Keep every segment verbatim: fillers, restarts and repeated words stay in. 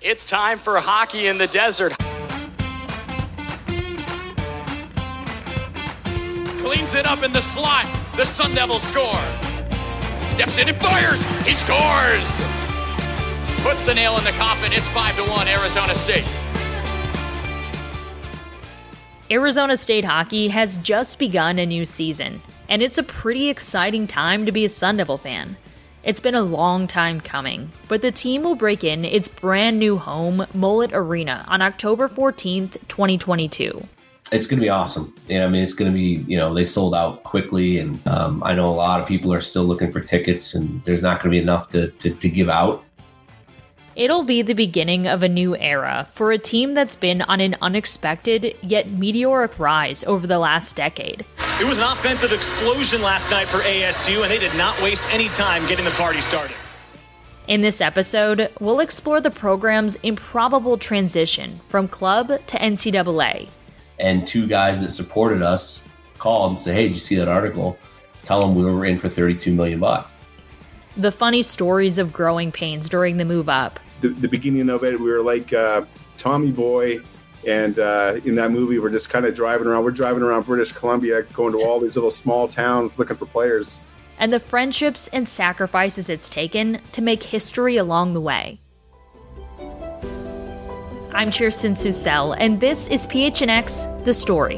It's time for Hockey in the Desert. Cleans it up in the slot. The Sun Devils score. Steps in and fires. He scores. Puts the nail in the coffin. It's five to one, Arizona State. Arizona State hockey has just begun a new season, and it's a pretty exciting time to be a Sun Devil fan. It's been a long time coming, but the team will break in its brand new home, Mullet Arena, on October fourteenth, twenty twenty-two. It's going to be awesome. You know, I mean, it's going to be, you know, they sold out quickly, and um, I know a lot of people are still looking for tickets, and there's not going to be enough to, to, to give out. It'll be the beginning of a new era for a team that's been on an unexpected yet meteoric rise over the last decade. It was an offensive explosion last night for A S U, and they did not waste any time getting the party started. In this episode, we'll explore the program's improbable transition from club to N C double A. And two guys that supported us called and said, hey, did you see that article? Tell them we were in for thirty-two million bucks. The funny stories of growing pains during the move up. The, the beginning of it, we were like uh, Tommy Boy, and uh, in that movie, we're just kind of driving around. We're driving around British Columbia, going to all these little small towns looking for players. And the friendships and sacrifices it's taken to make history along the way. I'm Kirsten Susel, and this is P H N X, The Story.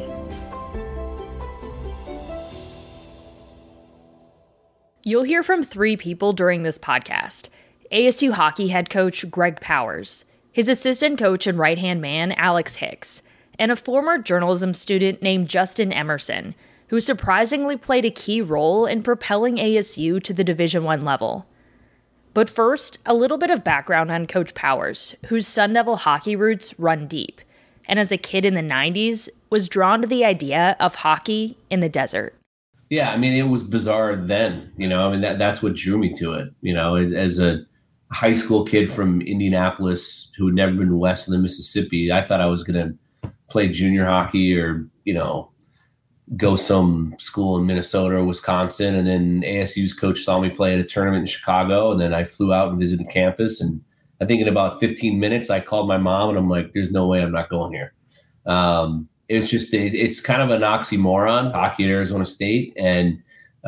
You'll hear from three people during this podcast. A S U hockey head coach Greg Powers, his assistant coach and right-hand man Alex Hicks, and a former journalism student named Justin Emerson, who surprisingly played a key role in propelling A S U to the Division I level. But first, a little bit of background on Coach Powers, whose Sun Devil hockey roots run deep, and as a kid in the nineties, was drawn to the idea of hockey in the desert. Yeah, I mean, it was bizarre then, you know, I mean, that that's what drew me to it, you know, as, as a high school kid from Indianapolis who had never been west of the Mississippi. I thought I was going to play junior hockey or, you know, go some school in Minnesota or Wisconsin. And then A S U's coach saw me play at a tournament in Chicago. And then I flew out and visited campus. And I think in about fifteen minutes, I called my mom and I'm like, there's no way I'm not going here. Um, It's just, it, it's kind of an oxymoron, hockey at Arizona State. And,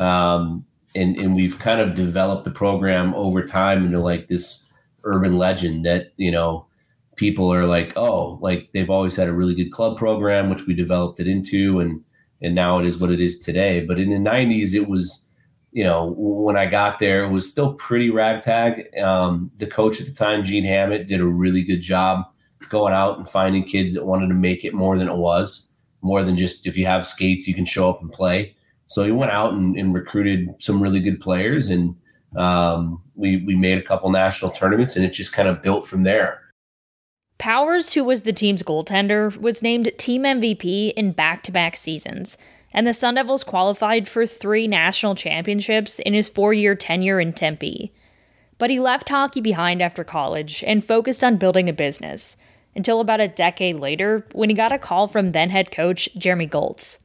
um, and, and we've kind of developed the program over time into like this urban legend that, you know, people are like, oh, like they've always had a really good club program, which we developed it into. And, and now it is what it is today. But in the nineties, it was, you know, when I got there, it was still pretty ragtag. Um, the coach at the time, Gene Hammett, did a really good job going out and finding kids that wanted to make it more than it was, more than just if you have skates, you can show up and play. So he went out and, and recruited some really good players, and um, we we made a couple national tournaments, and it just kind of built from there. Powers, who was the team's goaltender, was named team M V P in back-to-back seasons, and the Sun Devils qualified for three national championships in his four-year tenure in Tempe. But he left hockey behind after college and focused on building a business, until about a decade later when he got a call from then head coach Jeremy Goltz.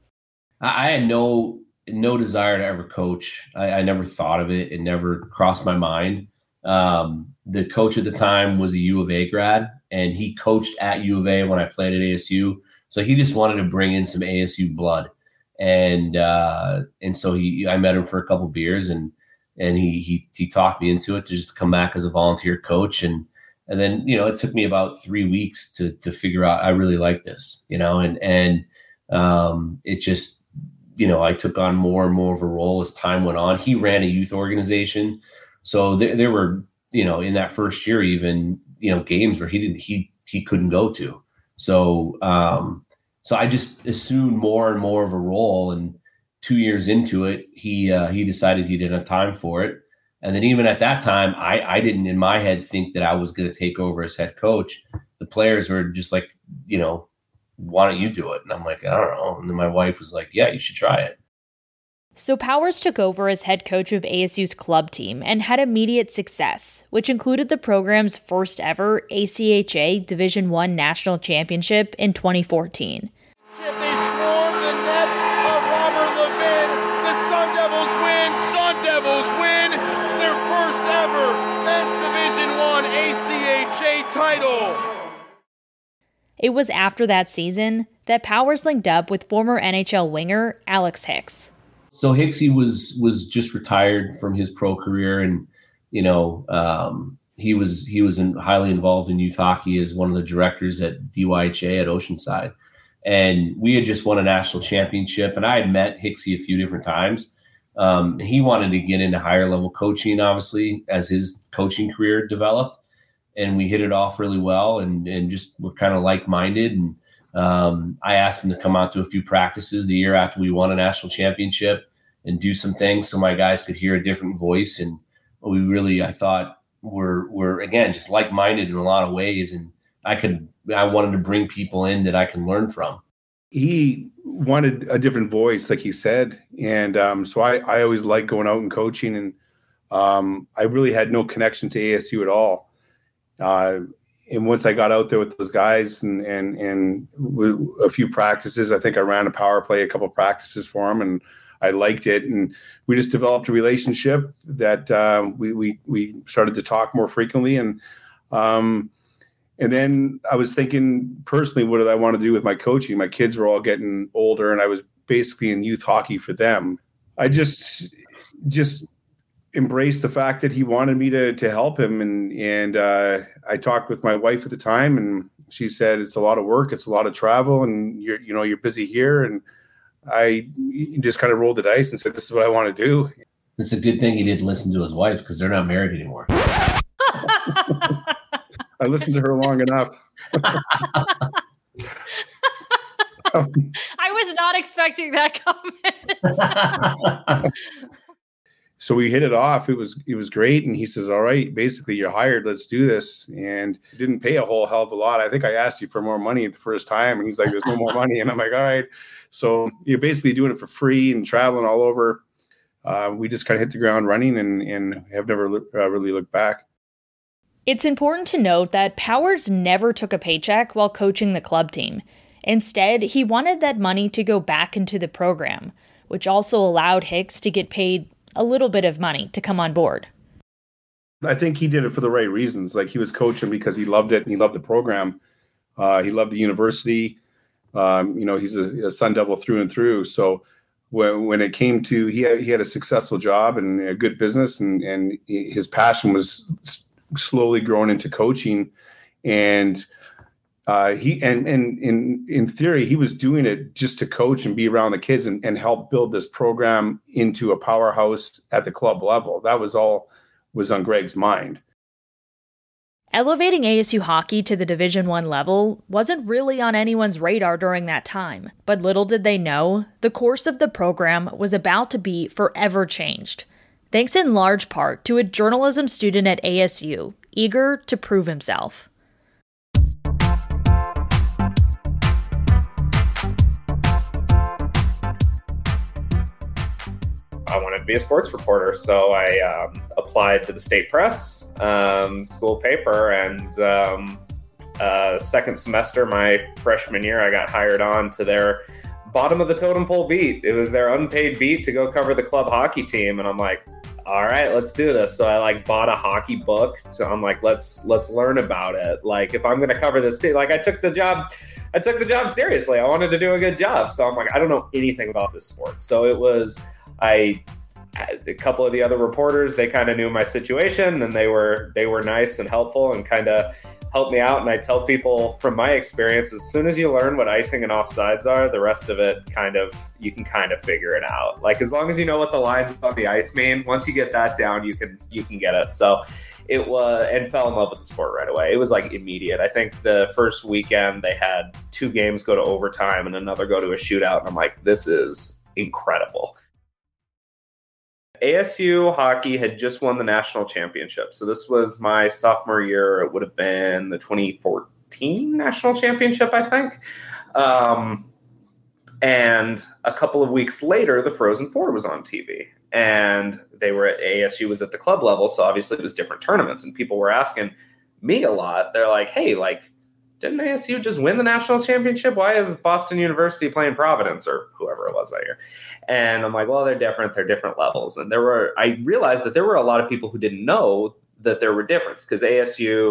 I had no no desire to ever coach. I, I never thought of it. It never crossed my mind. Um, the coach at the time was a U of A grad, and he coached at U of A when I played at A S U. So he just wanted to bring in some A S U blood. And uh, and so he I met him for a couple beers, and and he he he talked me into it to just come back as a volunteer coach. And And then, you know, it took me about three weeks to to figure out I really like this, you know, and and um, it just, you know, I took on more and more of a role as time went on. He ran a youth organization. So there, there were, you know, in that first year, even, you know, games where he didn't, he, he couldn't go to. So, um, so I just assumed more and more of a role, and two years into it, he, uh, he decided he didn't have time for it. And then even at that time, I, I didn't in my head think that I was going to take over as head coach. The players were just like, you know, why don't you do it? And I'm like, I don't know. And then my wife was like, yeah, you should try it. So Powers took over as head coach of A S U's club team and had immediate success, which included the program's first ever A C H A Division I National Championship in twenty fourteen. They swarm the net of Robert Levin. The Sun Devils win. Sun Devils win their first ever men's Division I A C H H A title. It was after that season that Powers linked up with former N H L winger Alex Hicks. So Hicksy was was just retired from his pro career, and you know um, he was he was in, highly involved in youth hockey as one of the directors at D Y H A at Oceanside, and we had just won a national championship, and I had met Hicksy a few different times. Um, he wanted to get into higher level coaching, obviously, as his coaching career developed, and we hit it off really well, and and just were kind of like minded. And um, I asked him to come out to a few practices the year after we won a national championship and do some things so my guys could hear a different voice. And we really, I thought, were were again just like minded in a lot of ways, and I could I wanted to bring people in that I can learn from. He wanted a different voice, like he said. And um, so I, I always liked going out and coaching. And um, I really had no connection to A S U at all. Uh, and once I got out there with those guys and and and a few practices, I think I ran a power play, a couple of practices for him, and I liked it. And we just developed a relationship that uh, we, we, we started to talk more frequently. And um, And then I was thinking personally, what did I want to do with my coaching? My kids were all getting older, and I was basically in youth hockey for them. I just just embraced the fact that he wanted me to to help him. And and uh, I talked with my wife at the time, and she said, it's a lot of work. It's a lot of travel, and you're, you know, you're busy here. And I just kind of rolled the dice and said, this is what I want to do. It's a good thing he didn't listen to his wife, because they're not married anymore. I listened to her long enough. um, I was not expecting that comment. So we hit it off. It was it was great. And he says, all right, basically you're hired. Let's do this. And didn't pay a whole hell of a lot. I think I asked you for more money the first time. And he's like, there's no more money. And I'm like, all right. So you're basically doing it for free and traveling all over. Uh, we just kind of hit the ground running and, and have never uh, really looked back. It's important to note that Powers never took a paycheck while coaching the club team. Instead, he wanted that money to go back into the program, which also allowed Hicks to get paid a little bit of money to come on board. I think he did it for the right reasons. Like, he was coaching because he loved it and he loved the program. Uh, he loved the university. Um, you know, he's a, a Sun Devil through and through. So when when it came to, he had, he had a successful job and a good business, and, and his passion was slowly growing into coaching. And uh, he and, and in in theory, he was doing it just to coach and be around the kids and, and help build this program into a powerhouse at the club level. That was all was on Greg's mind. Elevating A S U hockey to the Division One level wasn't really on anyone's radar during that time, but little did they know, the course of the program was about to be forever changed, thanks in large part to a journalism student at A S U, eager to prove himself. I wanted to be a sports reporter, so I um, applied to the State Press um, school paper, and um, uh, second semester, my freshman year, I got hired on to their bottom of the totem pole beat. It was their unpaid beat to go cover the club hockey team, and I'm like, all right, let's do this. So I like bought a hockey book. So I'm like, let's let's learn about it. Like, if I'm going to cover this team, like I took the job. I took the job seriously. I wanted to do a good job. So I'm like, I don't know anything about this sport. So it was. I, a couple of the other reporters, they kind of knew my situation, and they were they were nice and helpful and kind of helped me out. And I tell people from my experience, as soon as you learn what icing and offsides are, the rest of it kind of, you can kind of figure it out. Like, as long as you know what the lines on the ice mean, once you get that down, you can you can get it. So it was, and fell in love with the sport right away. It was like immediate. I think the first weekend they had two games go to overtime and another go to a shootout. And I'm like, this is incredible. A S U hockey had just won the national championship. So this was my sophomore year. It would have been the twenty fourteen national championship, I think. Um, and a couple of weeks later, the Frozen Four was on T V. And they were at A S U was at the club level. So obviously it was different tournaments. And people were asking me a lot. They're like, hey, like, didn't A S U just win the national championship? Why is Boston University playing Providence or whoever it was that year? And I'm like, well, they're different. They're different levels. And there were, I realized that there were a lot of people who didn't know that there were differences, because A S U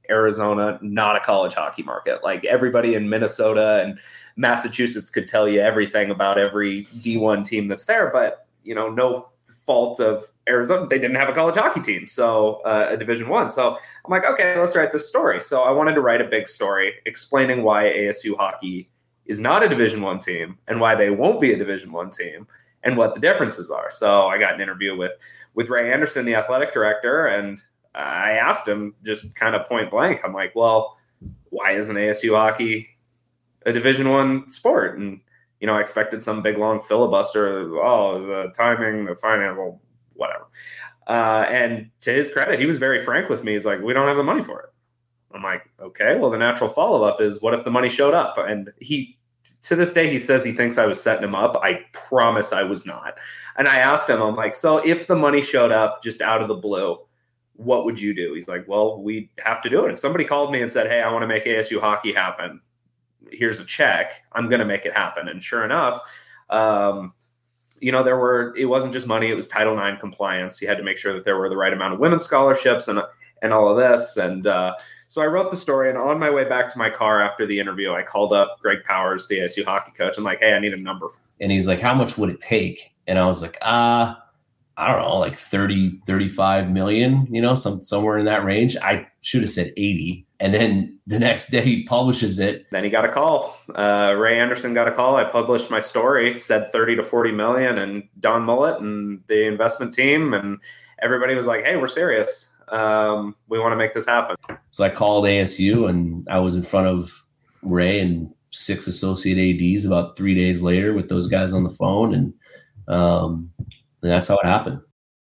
Arizona not a college hockey market. Like everybody in Minnesota and Massachusetts could tell you everything about every D one team that's there, but you know, no fault of Arizona, they didn't have a college hockey team, so uh, a Division One. So I'm like, okay, let's write this story. So I wanted to write a big story explaining why A S U hockey is not a Division One team and why they won't be a Division One team and what the differences are. So I got an interview with with Ray Anderson, the athletic director, and I asked him just kind of point blank. I'm like, well, why isn't A S U hockey a Division One sport? And you know, I expected some big long filibuster. Oh, the timing, the financial, whatever. Uh, and to his credit, he was very frank with me. He's like, we don't have the money for it. I'm like, okay, well, the natural follow-up is what if the money showed up? And he, to this day, he says he thinks I was setting him up. I promise I was not. And I asked him, I'm like, so if the money showed up just out of the blue, what would you do? He's like, well, we have to do it. If somebody called me and said, hey, I want to make A S U hockey happen, here's a check, I'm going to make it happen. And sure enough, um, you know, there were, it wasn't just money, it was Title nine compliance. You had to make sure that there were the right amount of women's scholarships and, and all of this. And uh, so I wrote the story, and on my way back to my car after the interview, I called up Greg Powers, the A S U hockey coach. I'm like, hey, I need a number. And he's like, how much would it take? And I was like, ah, uh, I don't know, like thirty, thirty-five million, you know, some somewhere in that range. I should have said eighty. And then the next day he publishes it. Then he got a call. Uh, Ray Anderson got a call. I published my story, said thirty to forty million, and Don Mullet and the investment team and everybody was like, hey, we're serious. Um, we want to make this happen. So I called A S U, and I was in front of Ray and six associate A Ds about three days later with those guys on the phone. And, um, and that's how it happened.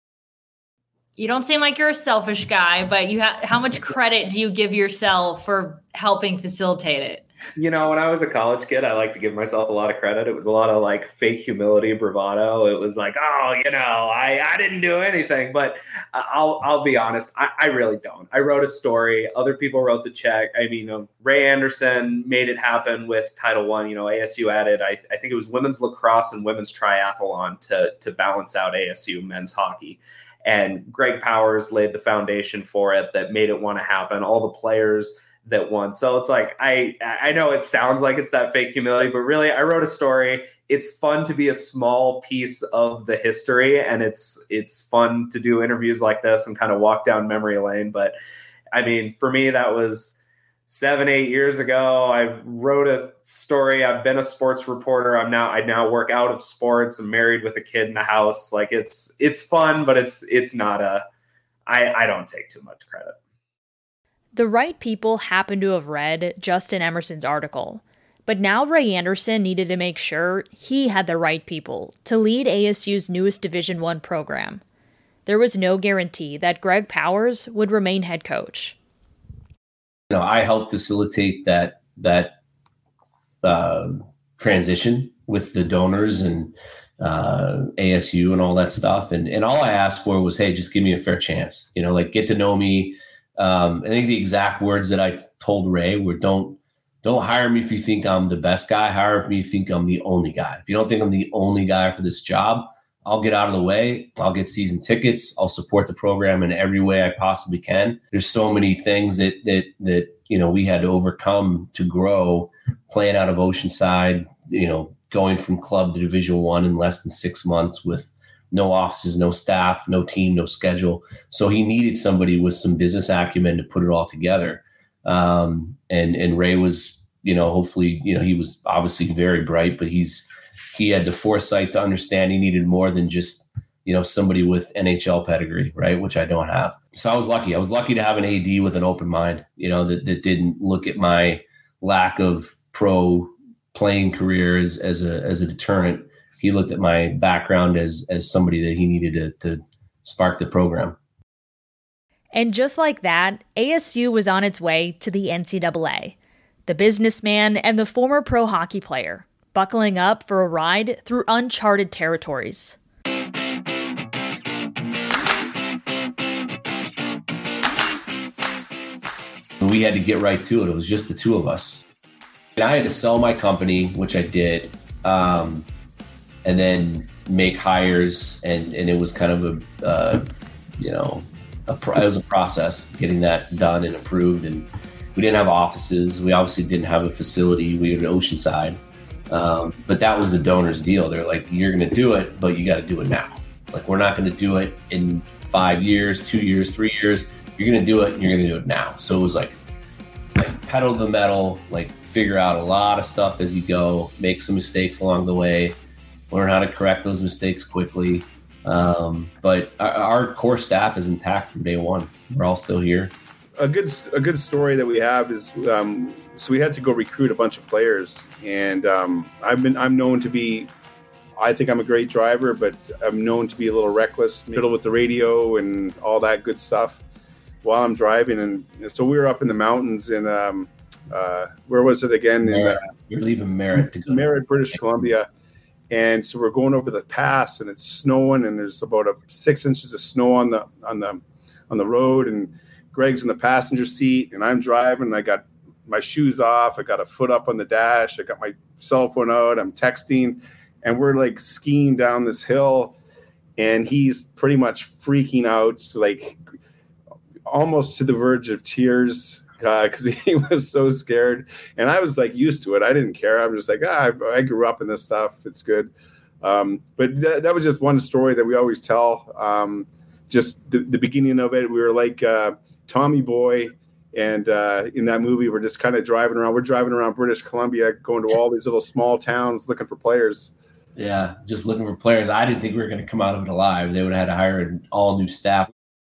You don't seem like you're a selfish guy, but you ha- how much credit do you give yourself for helping facilitate it? You know, when I was a college kid, I like to give myself a lot of credit. It was a lot of like fake humility, bravado. It was like, oh, you know, I, I didn't do anything. But I'll I'll be honest, I, I really don't. I wrote a story. Other people wrote the check. I mean, you know, Ray Anderson made it happen with Title One. You know, A S U added, I, I think it was women's lacrosse and women's triathlon to to balance out A S U men's hockey. And Greg Powers laid the foundation for it that made it want to happen. All the players that won. So it's like, I I know it sounds like it's that fake humility, but really I wrote a story. It's fun to be a small piece of the history, and it's it's fun to do interviews like this and kind of walk down memory lane. But I mean, for me, that was seven, eight years ago. I wrote a story. I've been a sports reporter. I'm now I now work out of sports. I'm married with a kid in the house. Like it's it's fun, but it's it's not a I, I don't take too much credit. The right people happen to have read Justin Emerson's article, but now Ray Anderson needed to make sure he had the right people to lead A S U's newest Division One program. There was no guarantee that Greg Powers would remain head coach. You know, I helped facilitate that that uh, transition with the donors and uh, A S U and all that stuff, and and all I asked for was, hey, just give me a fair chance. You know, like get to know me. Um, I think the exact words that I told Ray were, don't, don't hire me if you think I'm the best guy. Hire me if you think I'm the only guy. If you don't think I'm the only guy for this job, I'll get out of the way. I'll get season tickets. I'll support the program in every way I possibly can. There's so many things that, that, that, you know, we had to overcome to grow, playing out of Oceanside, you know, going from club to Division One in less than six months with no offices, no staff, no team, no schedule. So he needed somebody with some business acumen to put it all together. Um, and, and Ray was, you know, hopefully, you know, he was obviously very bright, but he's, he had the foresight to understand he needed more than just, you know, somebody with N H L pedigree, right? Which I don't have. So I was lucky. I was lucky to have an A D with an open mind, you know, that, that didn't look at my lack of pro playing career as, as a, as a deterrent. He looked at my background as as somebody that he needed to, to spark the program. And just like that, A S U was on its way to the N C double A. The businessman and the former pro hockey player, buckling up for a ride through uncharted territories. We had to get right to it. It was just the two of us. And I had to sell my company, which I did. Um, and then make hires, and, and it was kind of a, uh, you know, a pro- it was a process getting that done and approved. And we didn't have offices. We obviously didn't have a facility. We were in Oceanside. Um, but that was the donor's deal. They're like, you're going to do it, but you got to do it now. Like, we're not going to do it in five years, two years, three years. You're going to do it, and you're going to do it now. So it was like, like pedal to the metal, like figure out a lot of stuff as you go, make some mistakes along the way, learn how to correct those mistakes quickly. Um, but our, our core staff is intact from day one. We're all still here. A good a good story that we have is um, so we had to go recruit a bunch of players, and um, I've been I'm known to be, I think I'm a great driver, but I'm known to be a little reckless, fiddle with the radio and all that good stuff while I'm driving. And so we were up in the mountains in um, uh, where was it again? Merritt. In, uh, You're leaving Merritt to go Merritt, to- British Columbia. And so we're going over the pass, and it's snowing, and there's about a six inches of snow on the on the on the road, and Greg's in the passenger seat, and I'm driving. And I got my shoes off, I got a foot up on the dash, I got my cell phone out, I'm texting, and we're like skiing down this hill, and he's pretty much freaking out, like almost to the verge of tears. Because uh, he was so scared, and I was like used to it. I didn't care. I'm just like, ah, I, I grew up in this stuff. It's good. Um, but th- that was just one story that we always tell. Um, just the, the beginning of it, we were like uh, Tommy Boy, and uh, in that movie, we're just kind of driving around. We're driving around British Columbia, going to all these little small towns looking for players. Yeah, just looking for players. I didn't think we were going to come out of it alive. They would have had to hire an all new staff.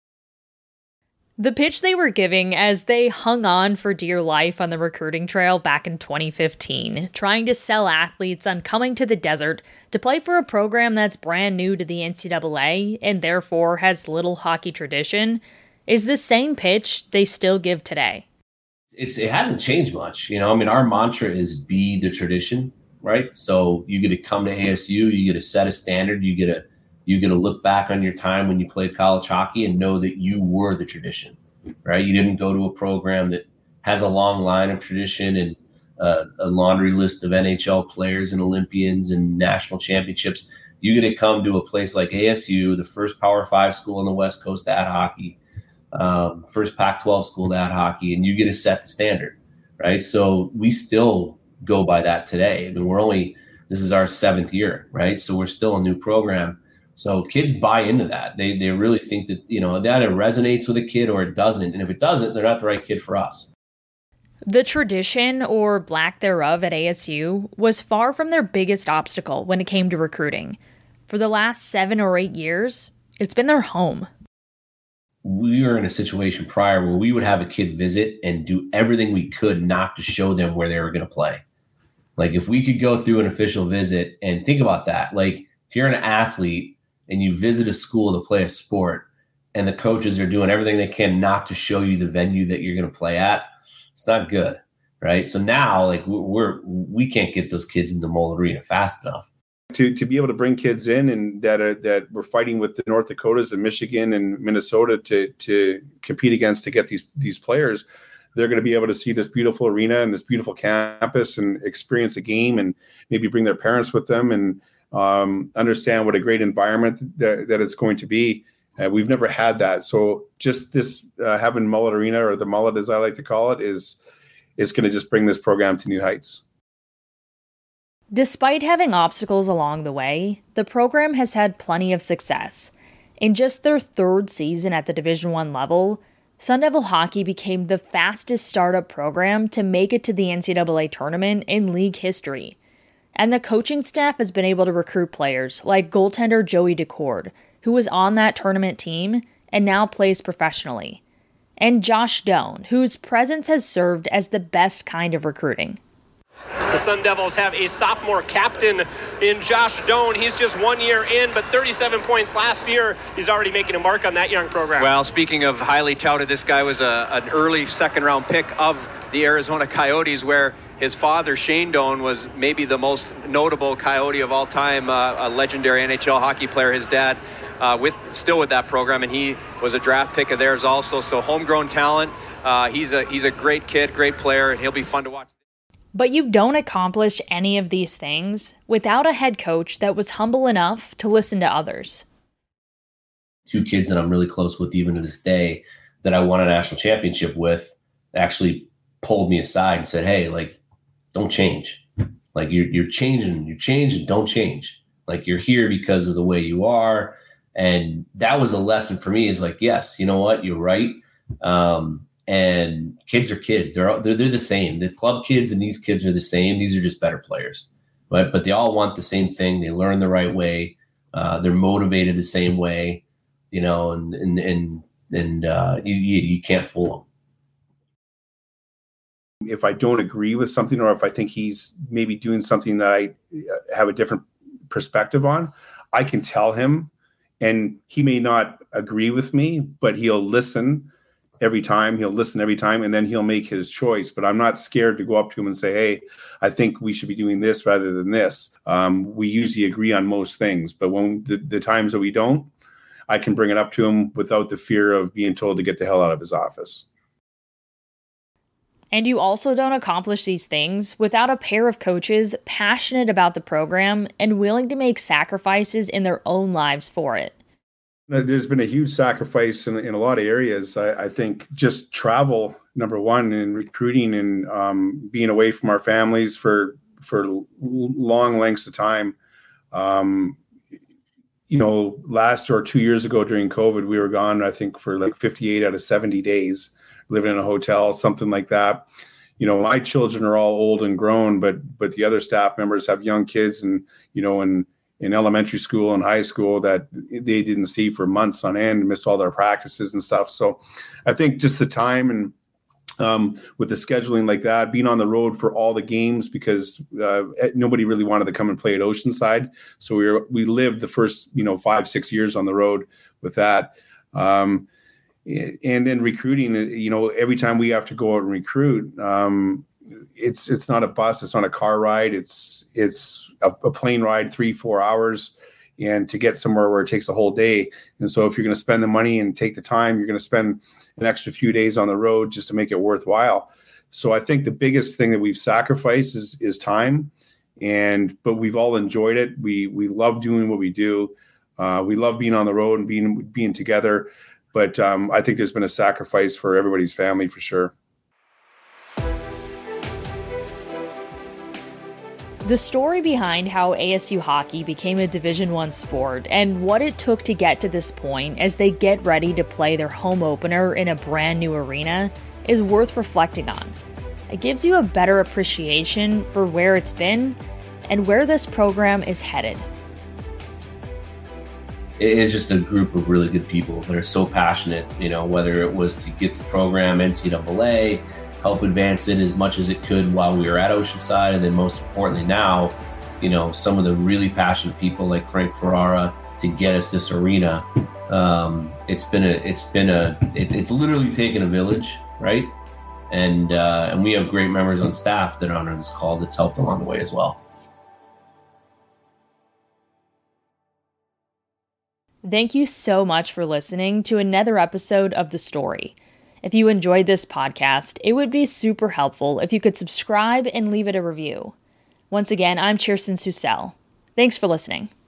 The pitch they were giving as they hung on for dear life on the recruiting trail back in twenty fifteen, trying to sell athletes on coming to the desert to play for a program that's brand new to the N C double A and therefore has little hockey tradition, is the same pitch they still give today. It's it hasn't changed much. You know, I mean, our mantra is be the tradition, right? So you get to come to A S U, you get to set a standard, you get to You get to look back on your time when you played college hockey and know that you were the tradition, right? You didn't go to a program that has a long line of tradition and uh, a laundry list of N H L players and Olympians and national championships. You get to come to a place like A S U, the first Power Five school on the West Coast to add hockey, um, first Pac twelve school to add hockey, and you get to set the standard, right? So we still go by that today. I mean, we're only, this is our seventh year, right? So we're still a new program. So kids buy into that. They they really think that, you know, that it resonates with a kid or it doesn't. And if it doesn't, they're not the right kid for us. The tradition, or lack thereof, at A S U was far from their biggest obstacle when it came to recruiting. For the last seven or eight years, it's been their home. We were in a situation prior where we would have a kid visit and do everything we could not to show them where they were going to play. Like, if we could go through an official visit and think about that, like if you're an athlete and you visit a school to play a sport and the coaches are doing everything they can not to show you the venue that you're going to play at, it's not good, right? So now, like, we're, we can't get those kids in the Mull Arena fast enough. To to be able to bring kids in and that are, that we're fighting with the North Dakotas and Michigan and Minnesota to to compete against to get these these players, they're going to be able to see this beautiful arena and this beautiful campus and experience a game and maybe bring their parents with them and Um, understand what a great environment that, that it's going to be. Uh, we've never had that. So just this uh, having Mullet Arena, or the Mullet as I like to call it, is is going to just bring this program to new heights. Despite having obstacles along the way, the program has had plenty of success. In just their third season at the Division One level, Sun Devil Hockey became the fastest startup program to make it to the N C double A tournament in league history. And the coaching staff has been able to recruit players like goaltender Joey Decord, who was on that tournament team and now plays professionally, and Josh Doan, whose presence has served as the best kind of recruiting. The Sun Devils have a sophomore captain in Josh Doan. He's just one year in, but thirty-seven points last year. He's already making a mark on that young program. Well, speaking of highly touted, this guy was a, an early second-round pick of the Arizona Coyotes, where his father, Shane Doan, was maybe the most notable Coyote of all time, uh, a legendary N H L hockey player. His dad uh, with still with that program, and he was a draft pick of theirs also. So homegrown talent. Uh, he's a he's a great kid, great player, and he'll be fun to watch. But you don't accomplish any of these things without a head coach that was humble enough to listen to others. two kids that I'm really close with even to this day that I won a national championship with actually pulled me aside and said, hey, like, don't change. Like you're, you're changing, you change and don't change. Like you're here because of the way you are. And that was a lesson for me is like, yes, you know what? You're right. Um, and kids are kids. They're, they're, they're the same. The club kids and these kids are the same. These are just better players, but, but they all want the same thing. They learn the right way. Uh, they're motivated the same way, you know, and, and, and, and uh, you, you, you can't fool them. If I don't agree with something, or if I think he's maybe doing something that I have a different perspective on, I can tell him, and he may not agree with me, but he'll listen every time. He'll listen every time, and then he'll make his choice. But I'm not scared to go up to him and say, hey, I think we should be doing this rather than this. Um, we usually agree on most things, but when the, the times that we don't, I can bring it up to him without the fear of being told to get the hell out of his office. And you also don't accomplish these things without a pair of coaches passionate about the program and willing to make sacrifices in their own lives for it. There's been a huge sacrifice in, in a lot of areas. I, I think just travel, number one, and recruiting and um, being away from our families for for long lengths of time. Um, you know, last or two years ago during COVID, we were gone, I think, for like fifty-eight out of seventy days. Living in a hotel, something like that. You know, my children are all old and grown, but but the other staff members have young kids, and you know, in in elementary school and high school that they didn't see for months on end, missed all their practices and stuff. So, I think just the time and um, with the scheduling like that, being on the road for all the games because uh, nobody really wanted to come and play at Oceanside. So we were we lived the first you know five six years on the road with that. Um, And then recruiting, you know, every time we have to go out and recruit, um, it's it's not a bus, it's not a car ride, it's it's a, a plane ride, three, four hours, and to get somewhere where it takes a whole day. And so if you're going to spend the money and take the time, you're going to spend an extra few days on the road just to make it worthwhile. So I think the biggest thing that we've sacrificed is is time, and but we've all enjoyed it. We we love doing what we do. Uh, we love being on the road and being being together. But um, I think there's been a sacrifice for everybody's family for sure. The story behind how A S U hockey became a Division One sport and what it took to get to this point as they get ready to play their home opener in a brand new arena is worth reflecting on. It gives you a better appreciation for where it's been and where this program is headed. It is just a group of really good people that are so passionate, you know, whether it was to get the program N C double A, help advance it as much as it could while we were at Oceanside, and then most importantly now, you know, some of the really passionate people like Frank Ferrara to get us this arena. Um, it's been a, it's been a, it, it's literally taken a village, right? And uh, and we have great members on staff that are on this call that's helped along the way as well. Thank you so much for listening to another episode of The Story. If you enjoyed this podcast, it would be super helpful if you could subscribe and leave it a review. Once again, I'm Kirsten Susel. Thanks for listening.